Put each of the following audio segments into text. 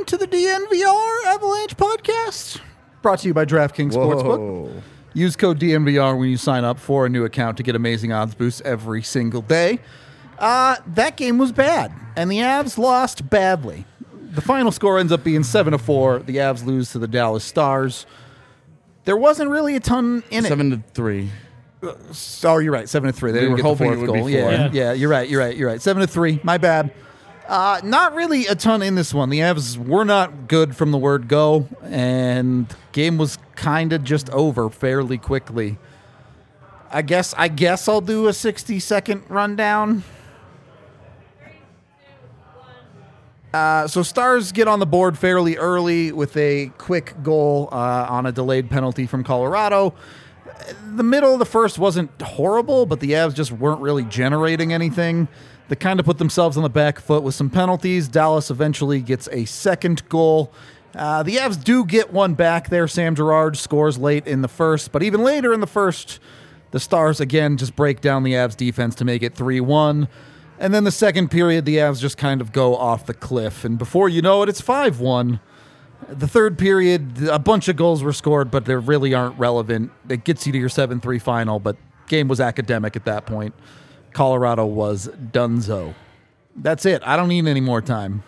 to the DNVR Avalanche podcast, brought to you by DraftKings Sportsbook. Use code DNVR when you sign up for a new account to get amazing odds boosts every single day. That game was bad, and the Avs lost badly. The final score ends up being 7-4. The Avs lose to the Dallas Stars. There wasn't really a ton in it. 7-3. Oh, you're right. 7-3. They didn't get the fourth goal. Yeah, you're right. 7-3. My bad. Not really a ton in this one. The Avs were not good from the word go, and game was kind of just over fairly quickly. I guess I'll do a 60-second rundown. So Stars get on the board fairly early with a quick goal on a delayed penalty from Colorado. The middle of the first wasn't horrible, but the Avs just weren't really generating anything. They kind of put themselves on the back foot with some penalties. Dallas eventually gets a second goal. The Avs do get one back there. Sam Girard scores late in the first, but even later in the first, the Stars again just break down the Avs defense to make it 3-1. And then the second period, the Avs just kind of go off the cliff. And before you know it, it's 5-1. The third period, a bunch of goals were scored, but they really aren't relevant. It gets you to your 7-3 final, but game was academic at that point. Colorado was donezo. That's it. I don't need any more time.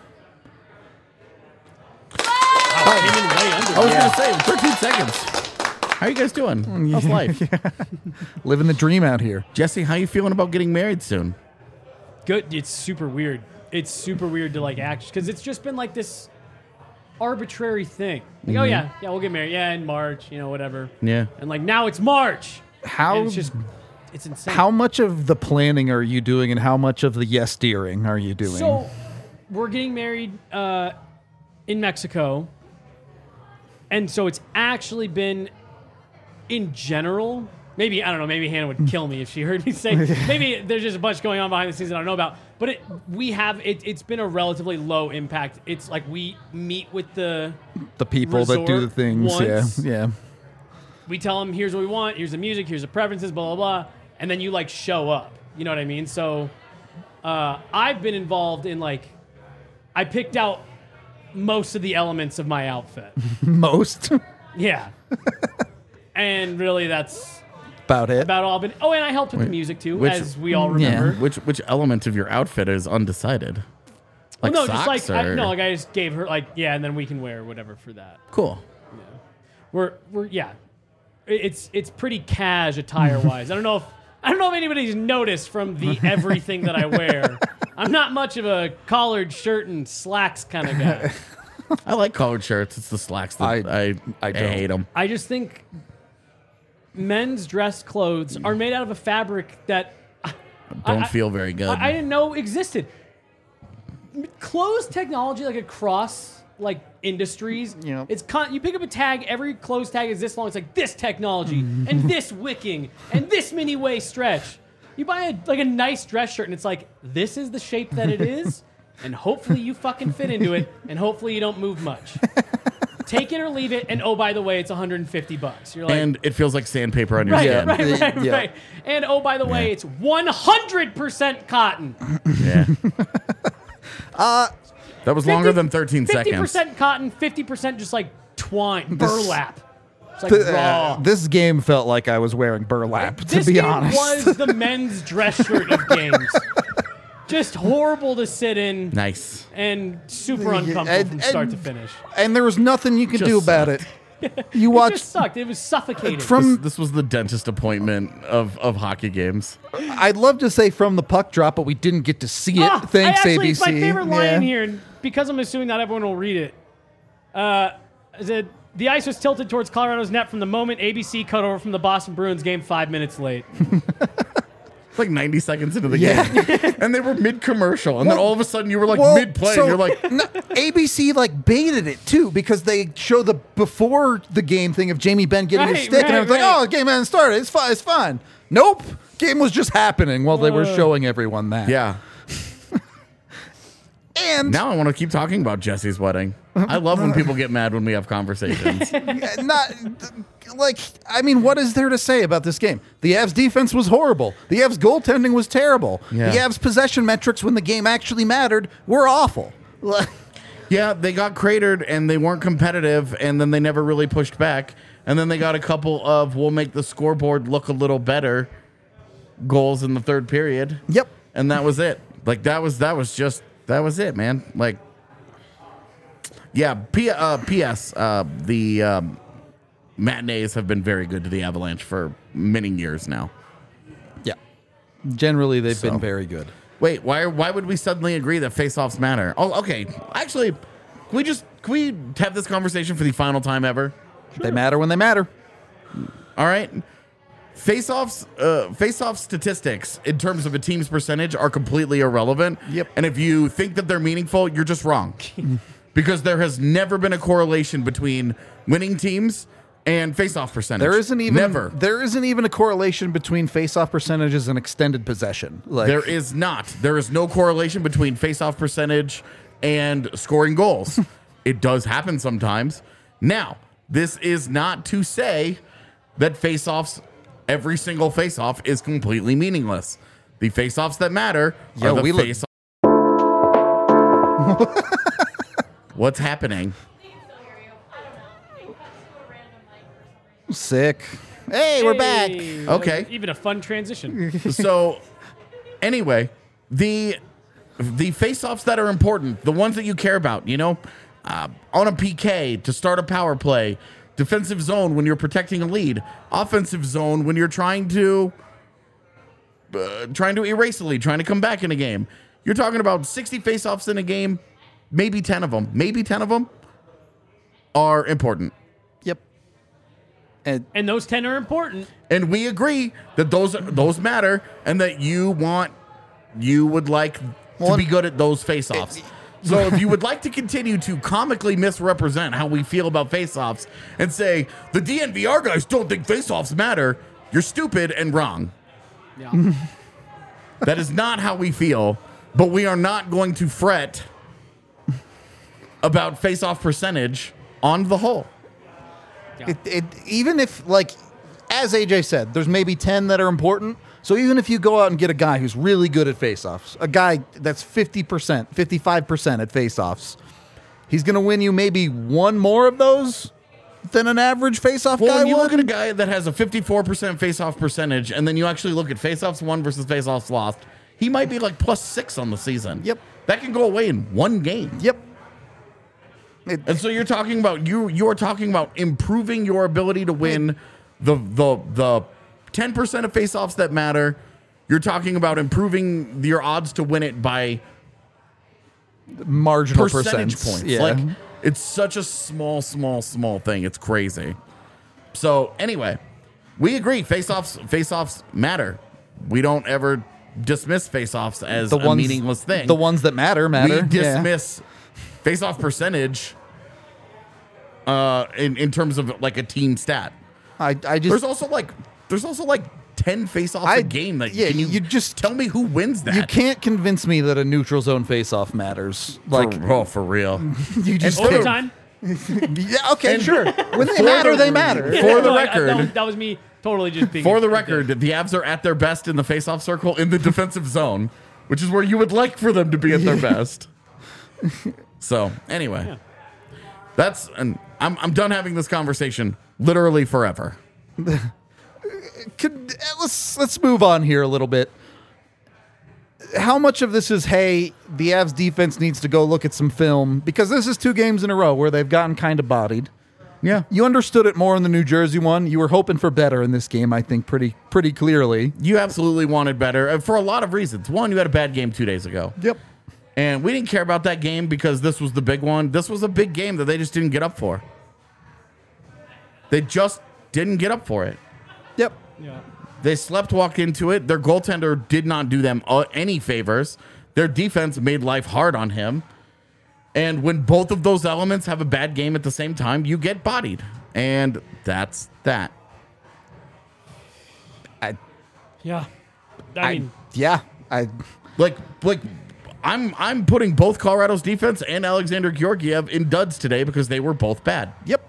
I was going to say, 13 seconds. How are you guys doing? How's life? Living the dream out here. Jesse, how you feeling about getting married soon? Good. It's super weird. It's super weird to act, because it's just been this arbitrary thing. Oh yeah, we'll get married. Yeah, in March, whatever. Yeah. And now it's March. How? It's insane. How much of the planning are you doing, and how much of the yes-steering are you doing? So, we're getting married in Mexico, and so it's actually been, in general, maybe, I don't know, maybe Hannah would kill me if she heard me say, maybe there's just a bunch going on behind the scenes that I don't know about, but it's been a relatively low impact. It's we meet with the people that do the things. Once. Yeah. We tell them, here's what we want, here's the music, here's the preferences, blah, blah, blah. And then you show up. You know what I mean? So I've been involved in I picked out most of the elements of my outfit. Most? Yeah. And really that's about it. About all. And I helped with the music too, as we all remember. Yeah. Which element of your outfit is undecided? Socks I just gave her and then we can wear whatever for that. Cool. Yeah. We're It's pretty cash attire wise. I don't know if anybody's noticed from the everything that I wear. I'm not much of a collared shirt and slacks kind of guy. I like collared shirts. It's the slacks that I hate them. I just think men's dress clothes are made out of a fabric that don't feel very good. I didn't know existed. Clothes technology across industries. It's you pick up a tag, every clothes tag is this long. It's this technology and this wicking and this mini waist stretch. You buy a nice dress shirt and it's this is the shape that it is, and hopefully you fucking fit into it, and hopefully you don't move much. Take it or leave it, and oh, by the way, it's $150. You're and it feels like sandpaper on your skin. Right. And oh, by the way, it's 100% cotton. Yeah. That was longer than 13 seconds. 50% cotton, 50% just twine, burlap. It's raw. This game felt like I was wearing burlap, to be honest. This game was the men's dress shirt of games. Just horrible to sit in. Nice. And super uncomfortable from start to finish. And there was nothing you could do about it. You watched. It just sucked. It was suffocating. This was the dentist appointment of hockey games. I'd love to say from the puck drop, but we didn't get to see it. Thanks, ABC. It's my favorite line in here, and because I'm assuming not everyone will read it. The ice was tilted towards Colorado's net from the moment ABC cut over from the Boston Bruins game 5 minutes late. 90 seconds into the game. And they were mid-commercial. And then all of a sudden you were mid-play. So, and you're ABC baited it too, because they show the before the game thing of Jamie Benn getting his stick. And I was the game hasn't started. It's fine. Nope. Game was just happening while they were showing everyone that. Yeah. And now I want to keep talking about Jesse's wedding. I love when people get mad when we have conversations. What is there to say about this game? The Avs defense was horrible. The Avs goaltending was terrible. Yeah. The Avs possession metrics when the game actually mattered were awful. Yeah, they got cratered and they weren't competitive, and then they never really pushed back. And then they got a couple of we'll make the scoreboard look a little better goals in the third period. Yep. And that was it. Like that was it, man. Like, yeah. P.S. The matinees have been very good to the Avalanche for many years now. Yeah. Generally, they've been very good. Wait, why would we suddenly agree that face-offs matter? Oh, okay. Actually, can we have this conversation for the final time ever? Sure. They matter when they matter. All right. Face-offs statistics in terms of a team's percentage are completely irrelevant. Yep. And if you think that they're meaningful, you're just wrong. Because there has never been a correlation between winning teams and face-off percentage. There isn't even a correlation between face-off percentages and extended possession. There is not. There is no correlation between face-off percentage and scoring goals. It does happen sometimes. Now, this is not to say that face-offs, every single face-off is completely meaningless. The face-offs that matter are the face-offs. What's happening? Sick. Hey, we're back. Okay. Even a fun transition. So, anyway, the face-offs that are important, the ones that you care about, on a PK to start a power play, defensive zone when you're protecting a lead, offensive zone when you're trying to erase a lead, trying to come back in a game. You're talking about 60 face-offs in a game, maybe 10 of them are important. Yep. And those 10 are important. And we agree that those matter, and that you would like to be good at those face-offs. So if you would like to continue to comically misrepresent how we feel about face-offs and say the DNVR guys don't think face-offs matter, you're stupid and wrong. Yeah. That is not how we feel, but we are not going to fret about face-off percentage on the whole. Yeah. Even if, as AJ said, there's maybe 10 that are important. So even if you go out and get a guy who's really good at face-offs, a guy that's 50%, 55% at face-offs, he's going to win you maybe one more of those than an average face-off guy would. When you look at a guy that has a 54% face-off percentage, and then you actually look at face-offs won versus face-offs lost, he might be like +6 on the season. Yep. That can go away in one game. Yep. And so you're talking about you're talking about improving your ability to win the 10% of face-offs that matter. You're talking about improving your odds to win it by marginal percentage points. Yeah. It's such a small thing. It's crazy. So anyway, we agree. Face-offs matter. We don't ever dismiss face-offs as a meaningless thing. The ones that matter. We dismiss face-off percentage in terms of like a team stat. There's also like 10 face-offs a game. That you just tell me who wins that. You can't convince me that a neutral zone face-off matters. For real. You just overtime. Yeah. Okay. Sure. When they matter, they matter. For the record, that was me totally just being. For the record, the Avs are at their best in the face-off circle in the defensive zone, which is where you would like for them to be at their best. So anyway, I'm done having this conversation literally forever. Let's move on here a little bit. How much of this is, hey, the Avs defense needs to go look at some film? Because this is 2 games in a row where they've gotten kind of bodied. Yeah. You understood it more in the New Jersey one. You were hoping for better in this game, I think, pretty clearly. You absolutely wanted better for a lot of reasons. One, you had a bad game 2 days ago. Yep. And we didn't care about that game because this was the big one. This was a big game that they just didn't get up for. They just didn't get up for it. Yep. Yeah. They walked into it. Their goaltender did not do them any favors. Their defense made life hard on him. And when both of those elements have a bad game at the same time, you get bodied. And that's that. I'm putting both Colorado's defense and Alexander Georgiev in duds today because they were both bad. Yep.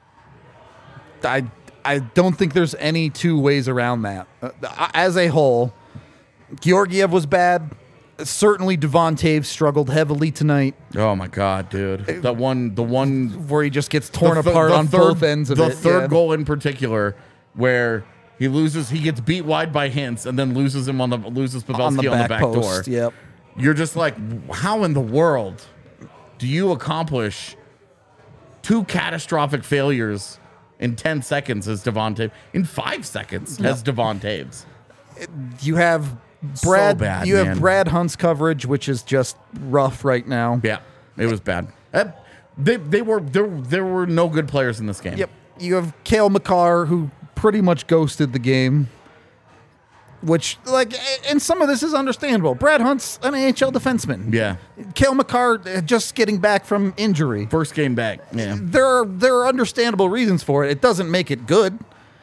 I don't think there's any 2 ways around that. As a whole, Georgiev was bad. Certainly, Devon Taves struggled heavily tonight, Oh my god, dude! The one where he just gets torn the th- apart the on third- both ends of the it. third yeah. goal in particular, where he gets beat wide by Hintz, and then loses Pavelski on the back door. post. Yep. You're just like, how in the world do you accomplish 2 catastrophic failures in 10 seconds as Devon Taves? In 5 seconds as Devon Taves? You have Brad. bad, you man. have Brad Hunt's coverage, which is just rough right now. Yeah, it was bad. There were no good players in this game. Yep. You have Cale Makar, who pretty much ghosted the game. Which, and some of this is understandable. Brad Hunt's an AHL defenseman. Yeah. Cale Makar just getting back from injury. First game back. Yeah. There are understandable reasons for it. It doesn't make it good.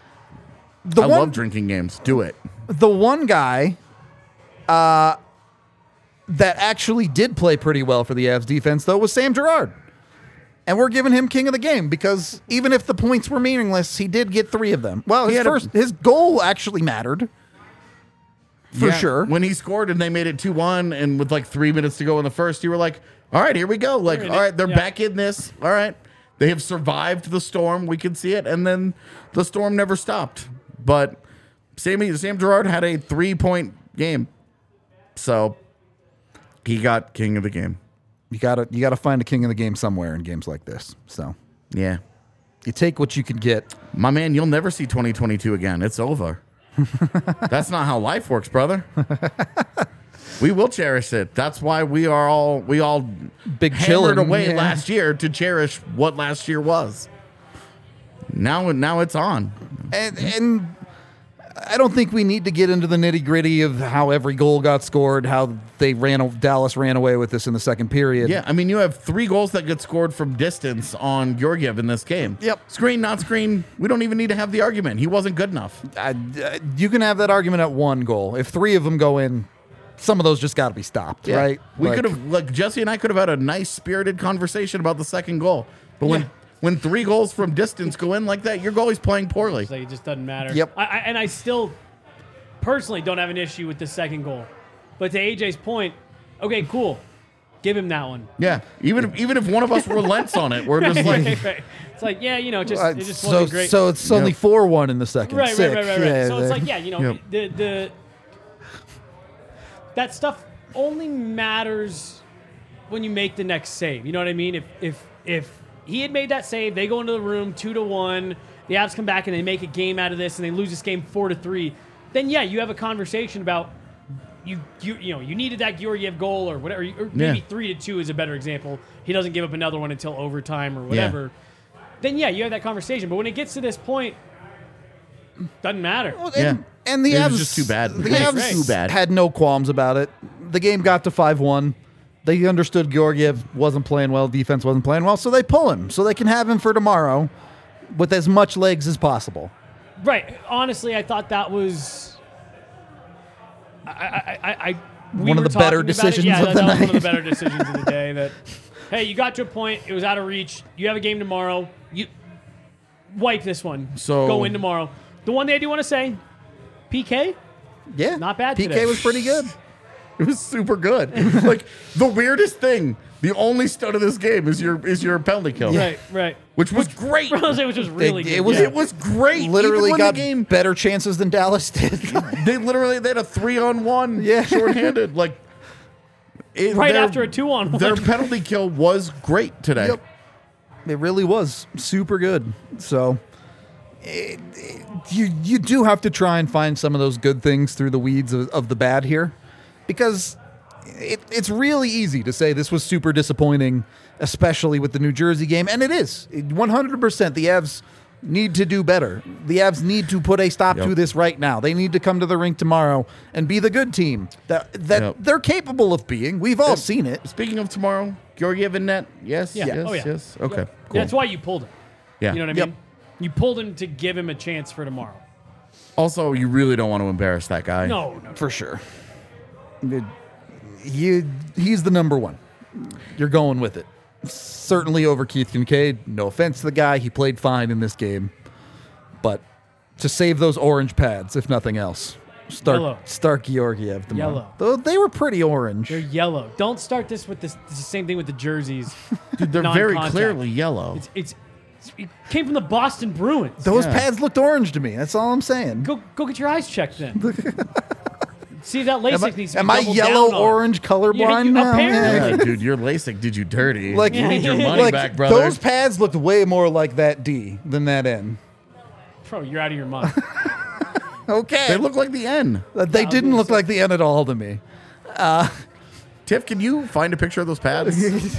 I love drinking games. Do it. The one guy that actually did play pretty well for the Avs defense, though, was Sam Girard. And we're giving him king of the game because even if the points were meaningless, he did get 3 of them. Well, his goal actually mattered. For sure. When he scored and they made it 2-1 and with 3 minutes to go in the first, you were like, all right, here we go. All right, they're back in this. All right. They have survived the storm. We can see it. And then the storm never stopped. But Sam Girard had a 3-point game. So he got king of the game. You gotta find a king of the game somewhere in games like this. So Yeah. you take what you can get. My man, you'll never see 2022 again. It's over. That's not how life works, brother. We will cherish it. That's why we all Big hammered chillin', away yeah. last year to cherish what last year was. Now it's on. And I don't think we need to get into the nitty gritty of how every goal got scored, how Dallas ran away with this in the second period. Yeah, I mean, you have 3 goals that get scored from distance on Georgiev in this game. Yep. Screen, not screen. We don't even need to have the argument. He wasn't good enough. You can have that argument at 1 goal. If 3 of them go in, some of those just got to be stopped, right? We could have, Jesse and I could have had a nice spirited conversation about the second goal. But when 3 goals from distance go in like that, your goalie's playing poorly. It's like it just doesn't matter. Yep. I still personally don't have an issue with the second goal. But to AJ's point, okay, cool. Give him that one. Yeah, even if one of us relents on it, we're just like, Right. It's like, yeah, it just wasn't great. So it's only 4-1 in the second. Right. Sick. Yeah, So it's like, the that stuff only matters when you make the next save. You know what I mean? If he had made that save, they go into the room 2-1. The Avs come back and they make a game out of this, and they lose this game 4-3. Then you have a conversation about you needed that Georgiev goal or whatever, or maybe 3-2 is a better example. He doesn't give up another one until overtime or whatever. Then you have that conversation. But when it gets to this point, doesn't matter. Well, and the It Avs was just too bad. The Right, Avs right. Too bad. had no qualms about it. The game got to 5-1. They understood Georgiev wasn't playing well, defense wasn't playing well, so they pull him so they can have him for tomorrow with as much legs as possible. Right. Honestly, I thought that was. One of the better decisions of the that was one night. of the better decisions of the day. That, hey, you got to a point. It was out of reach. You have a game tomorrow. You wipe this one. So- go in tomorrow. The one thing I do want to say, PK, Yeah. Not bad PK today. was pretty good. it was super good. Like the weirdest thing, the only stud of this game is your penalty kill, right. which was great. Which was really good. It was great. Literally Even when got the game. better chances than Dallas did. They had a 3-on-1, Yeah. shorthanded. Like Right after a 2-on-1. Their penalty kill was great today. Yep. It really was super good. So you do have to try and find some of those good things through the weeds of the bad here, because it's really easy to say this was super disappointing, especially with the New Jersey game, and it is 100%. The Avs need to do better. The Avs need to put a stop to this right now. They need to come to the rink tomorrow and be the good team that they're capable of being. We've all seen it. Speaking of tomorrow, Georgiev in net. Yes. Yeah. Yes. Oh, yeah. Yes. Okay. Yep. Cool. That's why you pulled him. Yeah. You know what I Yep. mean? You pulled him to give him a chance for tomorrow. Also, you really don't want to embarrass that guy. No. For sure. He's the number one. You're going with it. Certainly over Keith Kincaid. No offense to the guy. He played fine in this game. But to save those orange pads, if nothing else, Start Georgiev tomorrow. Yellow. Though they were pretty orange. They're yellow. Don't start this with this. It's the same thing with the jerseys. Dude, they're very Non-contact. clearly yellow. It came from the Boston Bruins. Those pads looked orange to me. That's all I'm saying. Go get your eyes checked then. See if that LASIK needs to be Am I doubled yellow, down on. orange, colorblind you- now? apparently. Yeah, dude, your LASIK did you dirty. Like you need your money like, back, brother. Those pads looked way more like that D than that N. Bro, you're out of your mind. Okay. They look like the N. They didn't look like the N at all to me. Tiff, can you find a picture of those pads?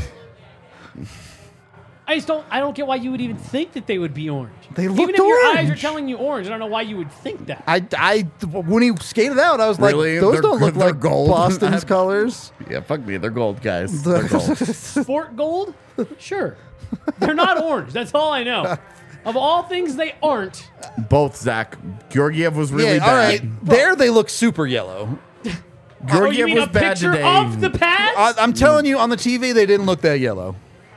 I don't get why you would even think that they would be orange. They Even looked if your eyes are orange. telling you orange, I don't know why you would think that. When he skated out, I was Really? like, those They're don't look good- they're like gold. Boston's colors. Yeah, fuck me. They're gold, guys. They're gold. Sport gold? Sure. They're not orange. That's all I know. Of all things they aren't. Both, Zach. Georgiev was really Yeah, bad. all right. There they look super yellow. You Georgiev mean was a bad picture today. of the pads? I'm telling you, on the TV, they didn't look that yellow.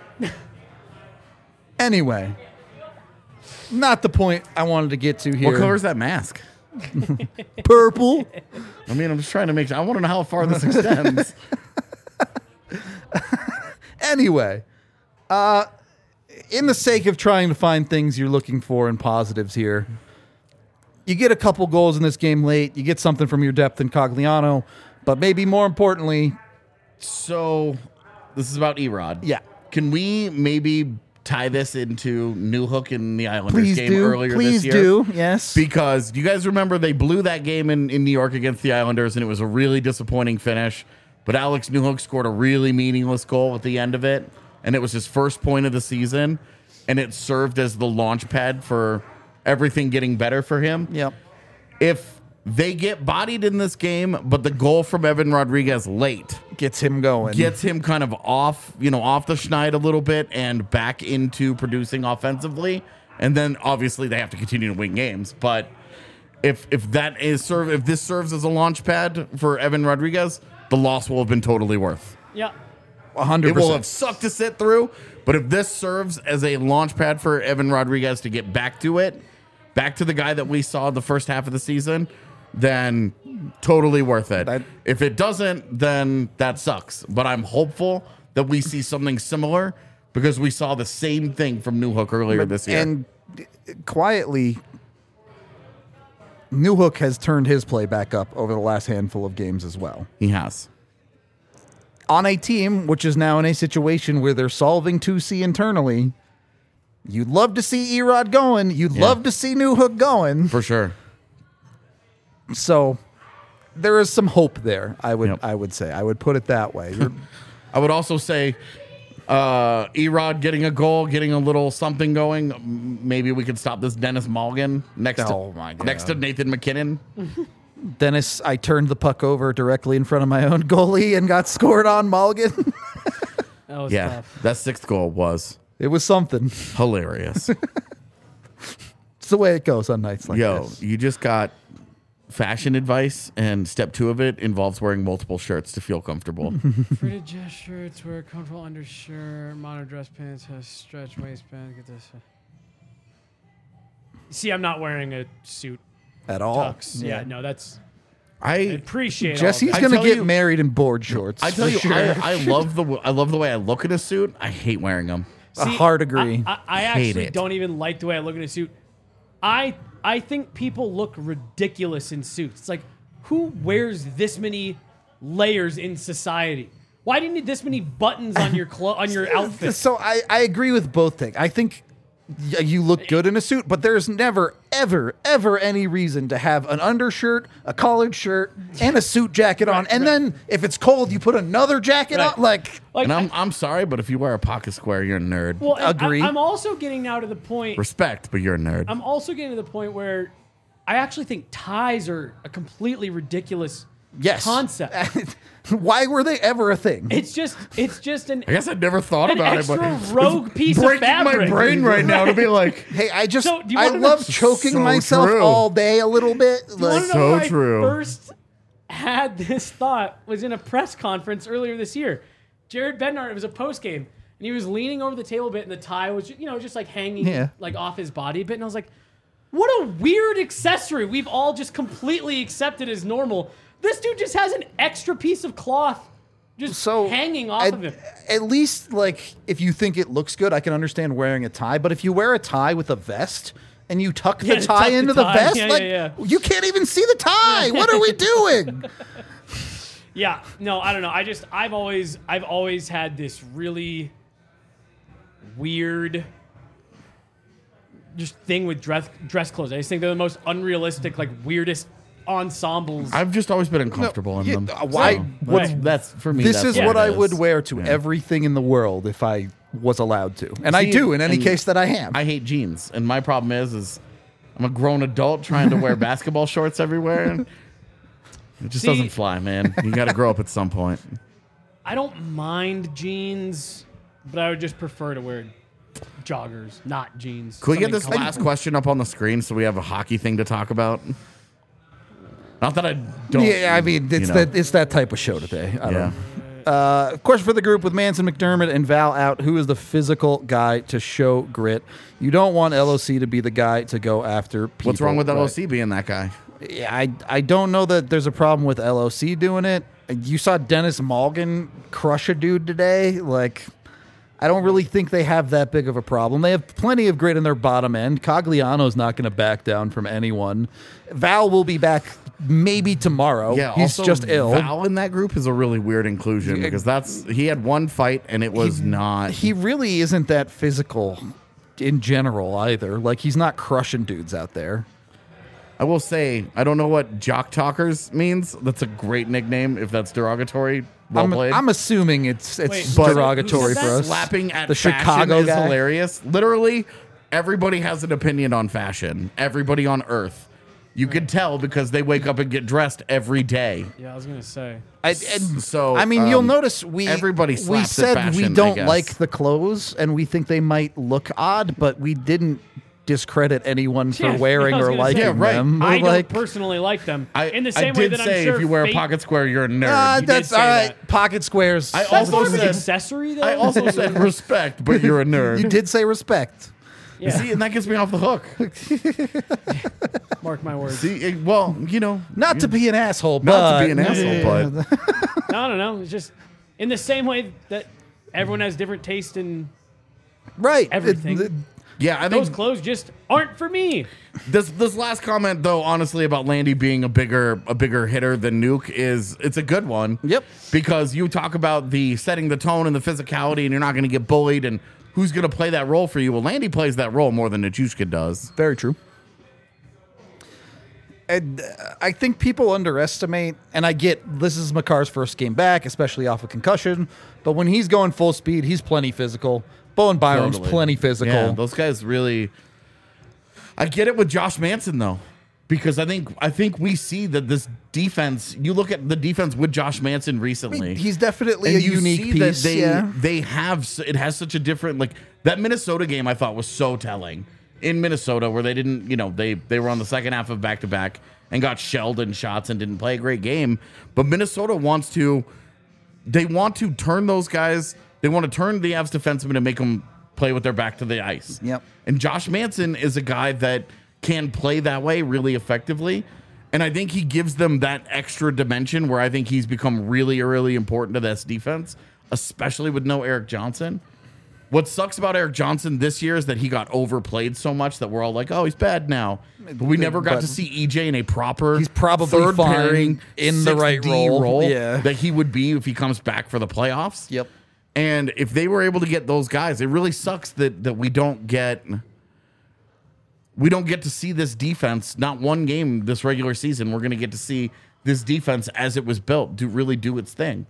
Anyway, not the point I wanted to get to here. What color is that mask? Purple. I mean, I'm just trying to make sure. I want to know how far this extends. Anyway, in the sake of trying to find things you're looking for and positives here, you get a couple goals in this game late. You get something from your depth in Cogliano, but maybe more importantly, So, this is about Erod. yeah. Can we maybe tie this into Newhook in the Islanders Please game do. earlier Please this year? do. Yes. Because do you guys remember they blew that game in New York against the Islanders, and it was a really disappointing finish. But Alex Newhook scored a really meaningless goal at the end of it, and it was his first point of the season, and it served as the launch pad for everything getting better for him. Yep. If they get bodied in this game, but the goal from Evan Rodriguez late Gets him going. gets him kind of off the schneid a little bit and back into producing offensively, and then obviously they have to continue to win games. But if this serves as a launch pad for Evan Rodriguez, the loss will have been totally worth. Yeah. 100%. It will have sucked to sit through, but if this serves as a launch pad for Evan Rodriguez to get back to the guy that we saw the first half of the season, then totally worth it. If it doesn't, then that sucks. But I'm hopeful that we see something similar because we saw the same thing from Newhook earlier this year. And quietly, Newhook has turned his play back up over the last handful of games as well. He has. On a team which is now in a situation where they're solving 2C internally, you'd love to see Erod going. You'd love to see Newhook going. For sure. So there is some hope there, I would say. I would put it that way. I would also say Erod getting a goal, getting a little something going. Maybe we could stop this Dennis Mulligan next to Nathan McKinnon. Dennis, I turned the puck over directly in front of my own goalie and got scored on Mulligan. That was Yeah, tough. that sixth goal was It was something. hilarious. It's the way it goes on nights like Yo, this. you just got fashion advice, and step 2 of it involves wearing multiple shirts to feel comfortable. Fitted dress shirts, wear a comfortable undershirt, modern dress pants, has stretch waistband. Get this. See, I'm not wearing a suit. At all. Tux. Yeah, no, that's. I I appreciate Jesse's all of I gonna tell get you- married in board shorts. I tell for you, sure. I love the way I look in a suit. I hate wearing them. that. See, hard agree. I Hate actually it. don't even like the way I look in a suit. I think people look ridiculous in suits. It's like, who wears this many layers in society? Why do you need this many buttons on your on your outfit? So I agree with both things. I think you look good in a suit, but there's never, ever, ever any reason to have an undershirt, a collared shirt, and a suit jacket on. And then if it's cold, you put another jacket Right. on. Like, Like, And I'm sorry, but if you wear a pocket square, you're a nerd. well, and agree. I'm also getting now to the point. Respect, but you're a nerd. I'm also getting to the point where I actually think ties are a completely ridiculous yes. concept. Why were they ever a thing? It's just an I guess I'd never thought an about extra it, but rogue piece of breaking fabric. my brain right now to be like, Hey, I just So, do you I wanna know- love choking So myself true. all day a little bit. You wanna Like, know So where true. I first had this thought was in a press conference earlier this year. Jared Bednar, it was a post game, and he was leaning over the table a bit, and the tie was just like hanging Yeah. like off his body a bit, and I was like, What a weird accessory we've all just completely accepted as normal. This dude just has an extra piece of cloth just hanging off of him. At least, like, if you think it looks good, I can understand wearing a tie. But if you wear a tie with a vest and you tuck the tie into the vest, you can't even see the tie. What are we doing? Yeah, no, I don't know. I've always had this really weird just thing with dress clothes. I just think they're the most unrealistic, like weirdest ensembles. I've just always been uncomfortable in them. Why? That's for me. This is what I would wear to Yeah. everything in the world if I was allowed to, and I do in any case that I am. I hate jeans, and my problem is I'm a grown adult trying to wear basketball shorts everywhere, and it just doesn't fly, man. You got to grow up at some point. I don't mind jeans, but I would just prefer to wear joggers, not jeans. Could we get this Something last comfortable. question up on the screen so we have a hockey thing to talk about? Not that I don't. Yeah, I mean it's that type of show today. I don't know. Question for the group: with Manson, McDermott, and Val out, who is the physical guy to show grit? You don't want LOC to be the guy to go after people. What's wrong with right? LOC being that guy? Yeah, I don't know that there's a problem with LOC doing it. You saw Dennis Malgin crush a dude today. Like, I don't really think they have that big of a problem. They have plenty of grit in their bottom end. Cogliano's not going to back down from anyone. Val will be back maybe tomorrow. Yeah, he's also, just ill. Val in that group is a really weird inclusion because he had one fight and it was not. He really isn't that physical in general either. Like, he's not crushing dudes out there. I will say, I don't know what jock talkers means. That's a great nickname if that's derogatory. Well played. I'm assuming it's Wait, derogatory who for said that? us. Slapping at the fashion Chicago is guy. hilarious. Literally, everybody has an opinion on fashion. Everybody on Earth. You can tell because they wake up and get dressed every day. Yeah, I was gonna say. I mean, you'll notice everybody we slaps at said fashion, we I don't guess. like the clothes and we think they might look odd, but we didn't discredit anyone for Yeah, wearing I was or gonna liking say. Yeah, right. them. I We're like, don't personally like them. In the I same way did that say I'm sure if you wear a Fate- pocket square, you're a nerd. did that's say all right. that. Pocket squares. I That's also more of an said- accessory, though. I also said respect, but you're a nerd. you did say respect. Yeah. See, and that gets me off the hook. Mark my words. See, well, Not to be an asshole, not but to be an asshole, but No, I don't know. It's just in the same way that everyone has different taste in right. everything. yeah, I Those think clothes just aren't for me. this last comment though, honestly, about Landy being a bigger hitter than Nuke it's a good one. Yep. Because you talk about the setting the tone and the physicality, and you're not going to get bullied, and who's going to play that role for you? Well, Landy plays that role more than Nichushka does. Very true. And I think people underestimate, and I get this is Makar's first game back, especially off a concussion, but when he's going full speed, he's plenty physical. Bowen Byram's Totally. plenty physical. Yeah, those guys really. I get it with Josh Manson though, because I think we see that this defense. You look at the defense with Josh Manson recently. He's definitely and a you unique see piece. that they have it has such a different, like that Minnesota game I thought was so telling in Minnesota, where they didn't, they were on the second half of back-to-back and got shelled in shots and didn't play a great game, but Minnesota wants to turn those guys. They want to turn the Avs defensemen and make them play with their back to the ice. Yep. And Josh Manson is a guy that can play that way really effectively. And I think he gives them that extra dimension where I think he's become really, really important to this defense, especially with no Eric Johnson. What sucks about Eric Johnson this year is that he got overplayed so much that we're all like, oh, he's bad now. But we never got to see EJ in a proper He's probably third fine pairing in the right 6D role. Yeah. that he would be if he comes back for the playoffs. Yep. And if they were able to get those guys, it really sucks that we don't get to see this defense. Not one game this regular season. We're going to get to see this defense as it was built really do its thing.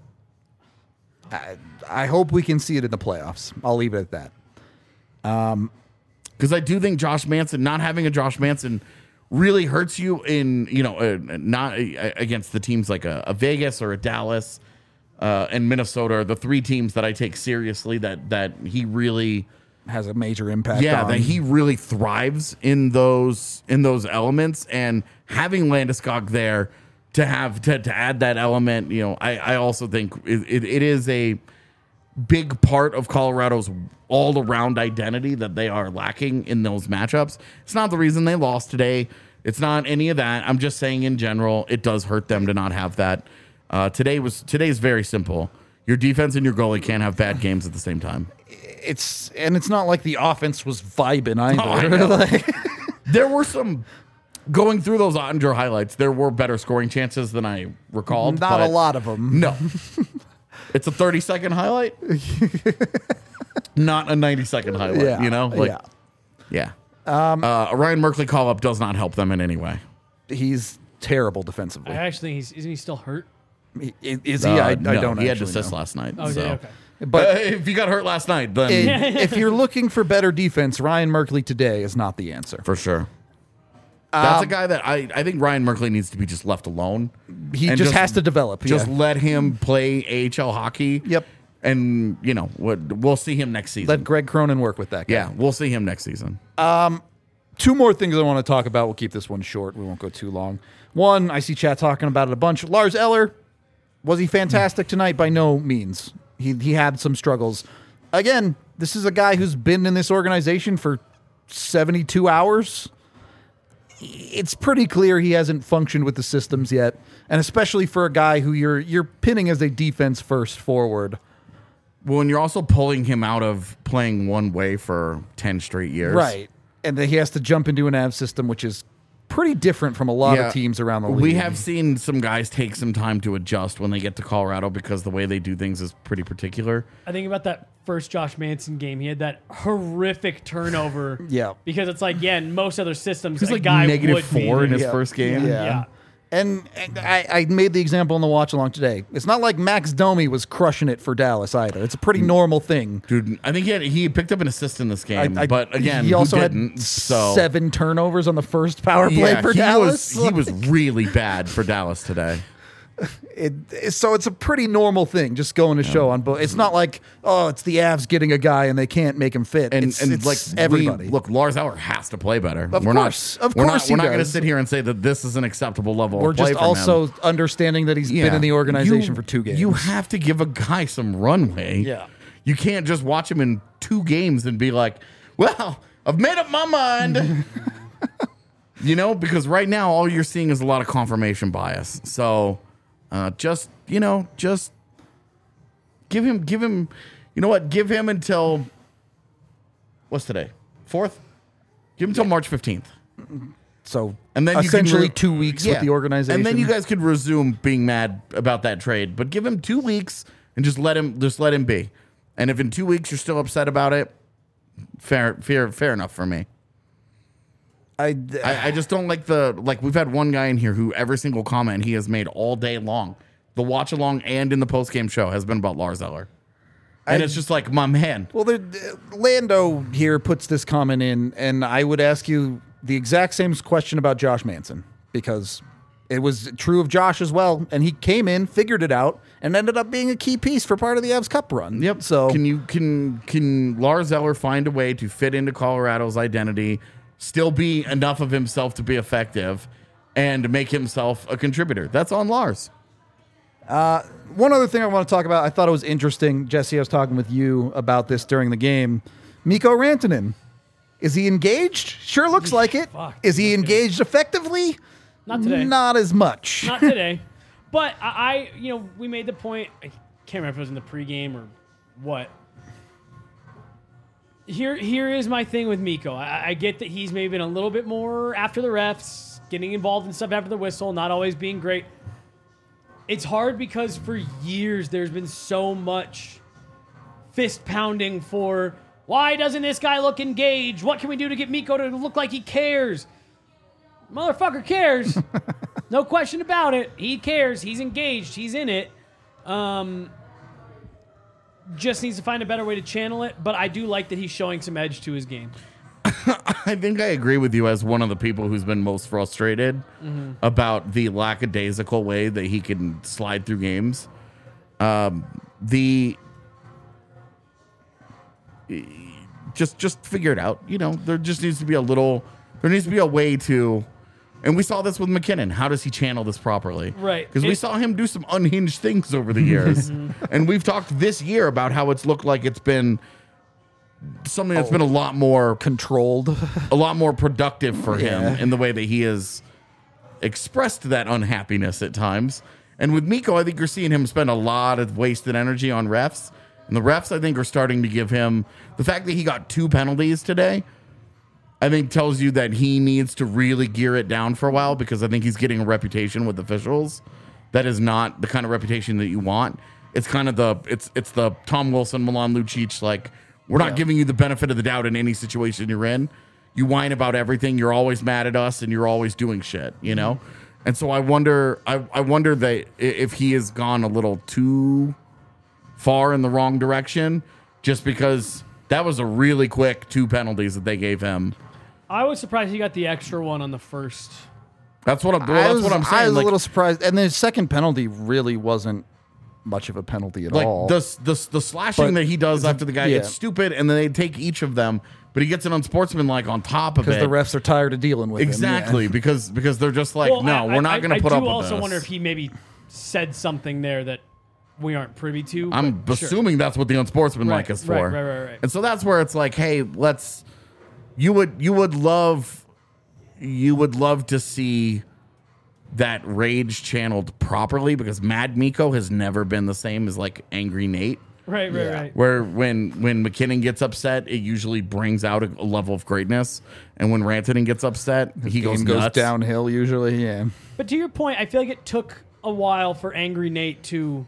I hope we can see it in the playoffs. I'll leave it at that. Because I do think Josh Manson, not having a Josh Manson, really hurts you in not against the teams like a Vegas or a Dallas and Minnesota are the three teams that I take seriously that he really Has a major impact yeah on. that he really thrives in those elements, and having Landeskog there to have to add that element, I also think it is big part of Colorado's all-around identity that they are lacking in those matchups. It's not the reason they lost today. It's not any of that. I'm just saying in general, it does hurt them to not have that. Today's very simple. Your defense and your goalie can't have bad games at the same time. It's not like the offense was vibing either. I know. There were some, going through those Ottinger highlights, there were better scoring chances than I recalled. Not a lot of them. No. It's a 30-second highlight. Not a 90-second highlight, Yeah, you know? Yeah. A Ryan Merkley call-up does not help them in any way. He's terrible defensively. I actually think isn't he still hurt? Is he? I No, don't he had actually assist know. last night. Oh, so. yeah, okay. But If you got hurt last night, then if you're looking for better defense, Ryan Merkley today is not the answer. for sure. That's a guy that I think Ryan Merkley needs to be just left alone. He And just has to develop. Just yeah. let him play AHL hockey. Yep. And, we'll see him next season. Let Greg Cronin work with that guy. Yeah, we'll see him next season. Two more things I want to talk about. We'll keep this one short. We won't go too long. One, I see chat talking about it a bunch. Lars Eller, was he fantastic tonight? By no means. He had some struggles. Again, this is a guy who's been in this organization for 72 hours. It's pretty clear he hasn't functioned with the systems yet, and especially for a guy who you're pinning as a defense first forward. Well, and you're also pulling him out of playing one way for 10 straight years. Right. And then he has to jump into an AV system, which is pretty different from a lot of teams around the league. We have seen some guys take some time to adjust when they get to Colorado because the way they do things is pretty particular. I think about that first Josh Manson game. He had that horrific turnover. Yeah. Because it's like, in most other systems, He was a like guy negative would be 4 in there. his first game. Yeah. And I made the example in the watch along today. It's not like Max Domi was crushing it for Dallas either. It's a pretty normal thing. Dude, I think he picked up an assist in this game, but again, he also who had didn't, so 7 turnovers on the first power play for Dallas. He was really bad for Dallas today. So it's a pretty normal thing, just going to show on both. It's not like, it's the Avs getting a guy and they can't make him fit. And It's like everybody. look, Lars Eller has to play better. Of we're course not he going to does. sit here and say that this is an acceptable level We're of play just from also him. understanding that he's been in the organization for 2 games. You have to give a guy some runway. Yeah. You can't just watch him in 2 games and be like, well, I've made up my mind. Because right now all you're seeing is a lot of confirmation bias. So just give him, give him until, what's today? 4th? Give him until March 15th. So And then essentially you can 2 weeks with the organization. And then you guys could resume being mad about that trade. But give him 2 weeks and just let him be. And if in 2 weeks you're still upset about it, fair enough for me. I just don't like we've had one guy in here who every single comment he has made all day long, the watch along and in the post game show, has been about Lars Eller. And it's just like, my man. Well, Lando here puts this comment in, and I would ask you the exact same question about Josh Manson, because it was true of Josh as well, and he came in, figured it out, and ended up being a key piece for part of the Avs Cup run. Yep. So Can Lars Eller find a way to fit into Colorado's identity, still be enough of himself to be effective, and make himself a contributor? That's on Lars. one other thing I want to talk about, I thought it was interesting, Jesse, I was talking with you about this during the game. Mikko Rantanen. Is he engaged? Sure looks like it. Fuck. Is he engaged effectively? Not today. Not as much. Not today. But we made the point. I can't remember if it was in the pregame or what. Here is my thing with Mikko. I get that he's maybe been a little bit more after the refs, getting involved in stuff after the whistle, not always being great. It's hard because for years there's been so much fist pounding for, why doesn't this guy look engaged? What can we do to get Mikko to look like he cares? Motherfucker cares. No question about it. He cares. He's engaged. He's in it. Just needs to find a better way to channel it. But I do like that he's showing some edge to his game. I think I agree with you as one of the people who's been most frustrated about the lackadaisical way that he can slide through games. Just figure it out. There just needs to be there needs to be a way to And we saw this with McKinnon. How does he channel this properly? Right. Because we saw him do some unhinged things over the years. And we've talked this year about how it's looked like it's been something that's been a lot more Controlled. a lot more productive for him in the way that he has expressed that unhappiness at times. And with Mikko, I think you're seeing him spend a lot of wasted energy on refs. And the refs, I think, are starting to give him the fact that he got 2 penalties today, I think tells you that he needs to really gear it down for a while, because I think he's getting a reputation with officials that is not the kind of reputation that you want. It's kind of it's the Tom Wilson, Milan Lucic, like, we're not giving you the benefit of the doubt in any situation you're in. You whine about everything. You're always mad at us, and you're always doing shit, you know? And so I wonder that if he has gone a little too far in the wrong direction, just because that was a really quick 2 penalties that they gave him. I was surprised he got the extra one on the first. That's what I'm saying. I was Like, a little surprised. And the second penalty really wasn't much of a penalty at all. the slashing that he does after the guy yeah. gets stupid, and then they take each of them, but he gets an unsportsmanlike on top of it. Because the refs are tired of dealing with exactly him. because they're just like, no, we're not going to put up with this. I do also wonder if he maybe said something there that we aren't privy to. I'm assuming that's what the unsportsmanlike is for. Right. And so that's where it's like, hey, you would love to see that rage channeled properly, because Mad Mikko has never been the same as like Angry Nate. Right. Where when McKinnon gets upset, it usually brings out a level of greatness, and when Rantanen gets upset, he goes nuts. Downhill usually. Yeah. But to your point, I feel like it took a while for Angry Nate to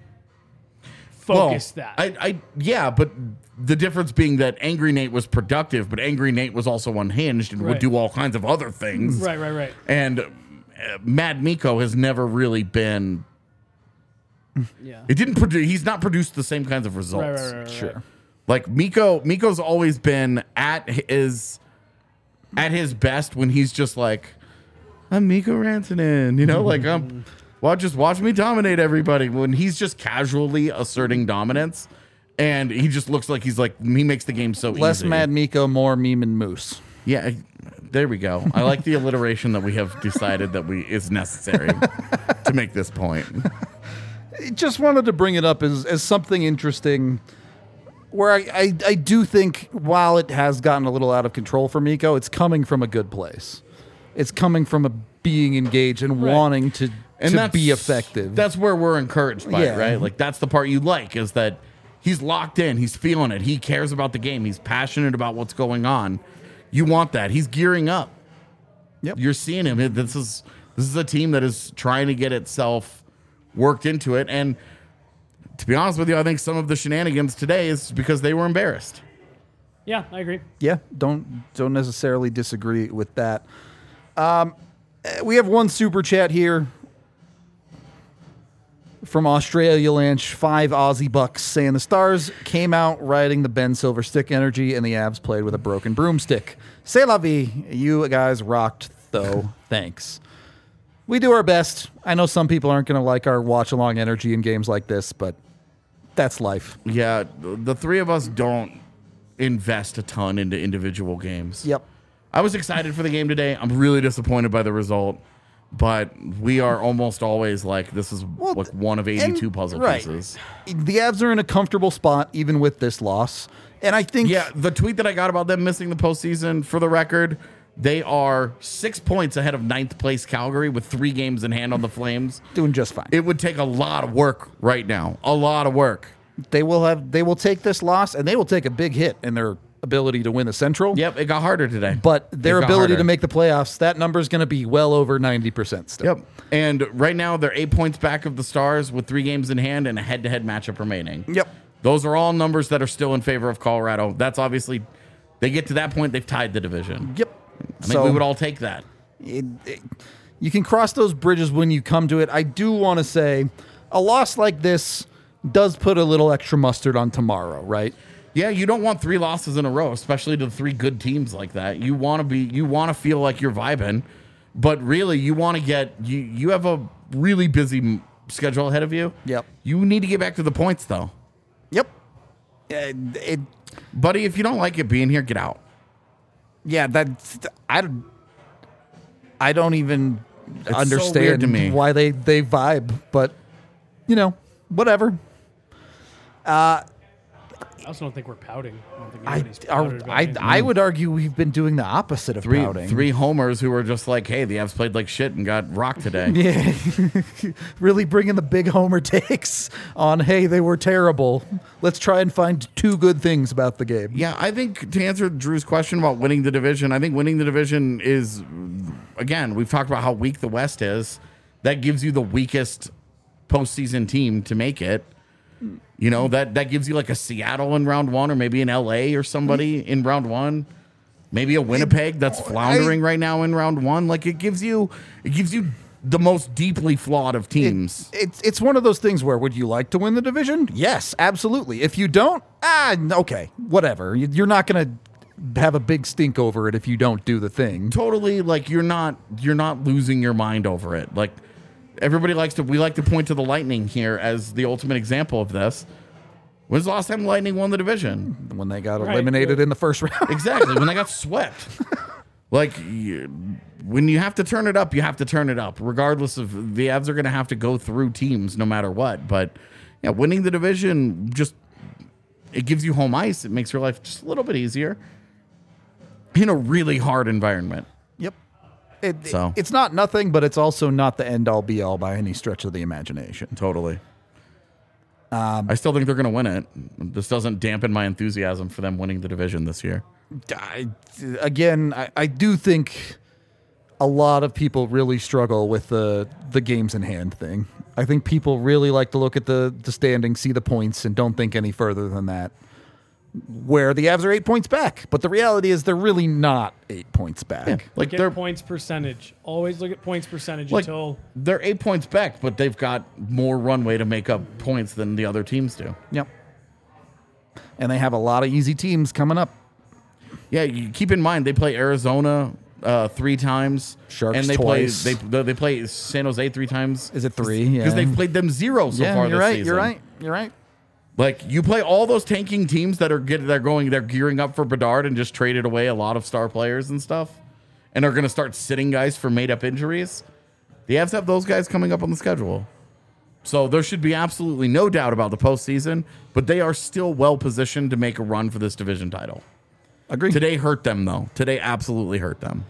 focus that. Yeah, but the difference being that Angry Nate was productive, but Angry Nate was also unhinged and would do all kinds of other things. Right. And Mad Mikko has never really been. Yeah. It didn't produce. He's not produced the same kinds of results. Right. Sure. Like Mikko's always been at his best when he's just like, I'm Mikko Rantanen, you know, like just watch me dominate everybody. When he's just casually asserting dominance, and he just looks like he makes the game so Less easy. Mad Mikko, more Meme and Moose. Yeah, there we go. I like the alliteration that we have decided that is necessary to make this point. Just wanted to bring it up as something interesting, where I do think, while it has gotten a little out of control for Mikko, it's coming from a good place. It's coming from a being engaged and wanting to be effective. That's where we're encouraged by it, right? Like, that's the part you like, is that he's locked in, he's feeling it, he cares about the game, he's passionate about what's going on. You want that. He's gearing up. Yep. You're seeing him. This is a team that is trying to get itself worked into it. And to be honest with you, I think some of the shenanigans today is because they were embarrassed. Yeah, I agree. Yeah, don't necessarily disagree with that. We have one super chat here from Australia Lanch, 5 Aussie bucks, saying the Stars came out riding the Ben Silver stick energy, and the Avs played with a broken broomstick. C'est la vie. You guys rocked, though. Thanks. We do our best. I know some people aren't going to like our watch-along energy in games like this, but that's life. Yeah, the three of us don't invest a ton into individual games. Yep. I was excited for the game today. I'm really disappointed by the result, but we are almost always like, this is like one of 82 puzzle pieces. The Avs are in a comfortable spot, even with this loss. And I think... Yeah, the tweet that I got about them missing the postseason, for the record, they are 6 points ahead of 9th place Calgary with 3 games in hand on the Flames. Doing just fine. It would take a lot of work right now. A lot of work. They will take this loss, and they will take a big hit in their ability to win the Central. Yep, it got harder today. But their ability to make the playoffs, that number is going to be well over 90% still. Yep. And right now, they're 8 points back of the Stars with 3 games in hand and a head-to-head matchup remaining. Yep. Those are all numbers that are still in favor of Colorado. That's obviously, they get to that point, they've tied the division. Yep. I think we would all take that. You can cross those bridges when you come to it. I do want to say, a loss like this does put a little extra mustard on tomorrow, right? Yeah, you don't want 3 losses in a row, especially to 3 good teams like that. You want to feel like you're vibing, but really you want to get you have a really busy schedule ahead of you. Yep. You need to get back to the points though. Yep. Buddy, if you don't like it being here, get out. Yeah, I don't even so understand weird to me. why they vibe, but whatever. I also don't think we're pouting. I don't think anybody's pouted about anything. I would argue we've been doing the opposite of pouting. Three homers who were just like, hey, the Avs played like shit and got rocked today. Yeah, really bringing the big homer takes on, hey, they were terrible. Let's try and find two good things about the game. Yeah, I think to answer Drew's question about winning the division, I think winning the division is, again, we've talked about how weak the West is. That gives you the weakest postseason team to make it. That gives you like a Seattle in round one, or maybe an LA or somebody in round one. Maybe a Winnipeg that's floundering right now in round one. Like it gives you the most deeply flawed of teams. It's one of those things where, would you like to win the division? Yes, absolutely. If you don't, okay, whatever. You're not going to have a big stink over it if you don't do the thing. Totally, like you're not losing your mind over it. Like everybody we like to point to the Lightning here as the ultimate example of this. When's the last time the Lightning won the division? When they got eliminated in the first round. Exactly, when they got swept. Like, when you have to turn it up, you have to turn it up. Regardless of, the Avs are going to have to go through teams no matter what. But, yeah, winning the division, it gives you home ice. It makes your life just a little bit easier in a really hard environment. Yep. It's not nothing, but it's also not the end-all, be-all by any stretch of the imagination. Totally. I still think they're going to win it. This doesn't dampen my enthusiasm for them winning the division this year. I do think a lot of people really struggle with the games in hand thing. I think people really like to look at the standings, see the points, and don't think any further than that. Where the Avs are 8 points back, but the reality is they're really not 8 points back. Yeah, like their points percentage. Always look at points percentage until they're 8 points back, but they've got more runway to make up points than the other teams do. Yep. And they have a lot of easy teams coming up. Yeah, you keep in mind they play Arizona 3 times, Sharks and they twice. they play San Jose 3 times. Is it 3? Yeah, because they've played them 0 so far this season. You're right. Like, you play all those tanking teams that are they're gearing up for Bedard and just traded away a lot of star players and stuff, and are going to start sitting guys for made-up injuries. The Avs have those guys coming up on the schedule. So there should be absolutely no doubt about the postseason, but they are still well-positioned to make a run for this division title. Agreed. Today hurt them, though. Today absolutely hurt them.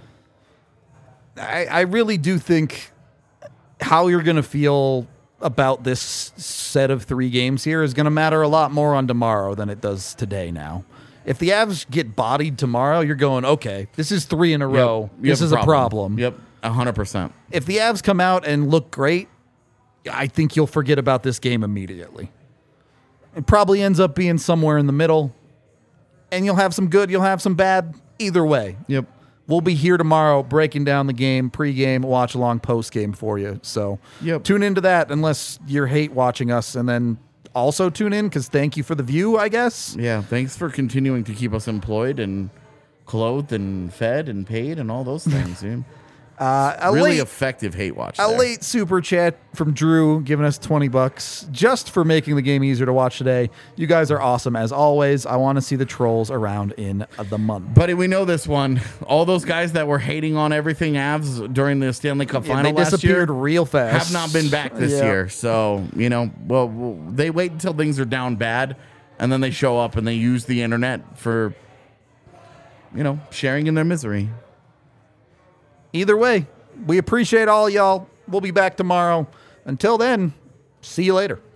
I really do think how you're going to feel about this set of 3 games here is going to matter a lot more on tomorrow than it does today now. If the Avs get bodied tomorrow, you're going, okay, this is 3 in a row. This is a problem. Yep, 100%. If the Avs come out and look great, I think you'll forget about this game immediately. It probably ends up being somewhere in the middle, and you'll have some good, you'll have some bad. Either way. Yep. We'll be here tomorrow breaking down the game, pregame, watch along, postgame for you. So Tune into that unless you hate watching us, and then also tune in because thank you for the view, I guess. Yeah, thanks for continuing to keep us employed and clothed and fed and paid and all those things. Dude. Really effective hate watch. Late super chat from Drew giving us $20 just for making the game easier to watch today. You guys are awesome as always. I want to see the trolls around in the month. Buddy, we know this one. All those guys that were hating on everything Avs during the Stanley Cup final they disappeared real fast. Have not been back this year. So, they wait until things are down bad, and then they show up and they use the internet for, sharing in their misery. Either way, we appreciate all y'all. We'll be back tomorrow. Until then, see you later.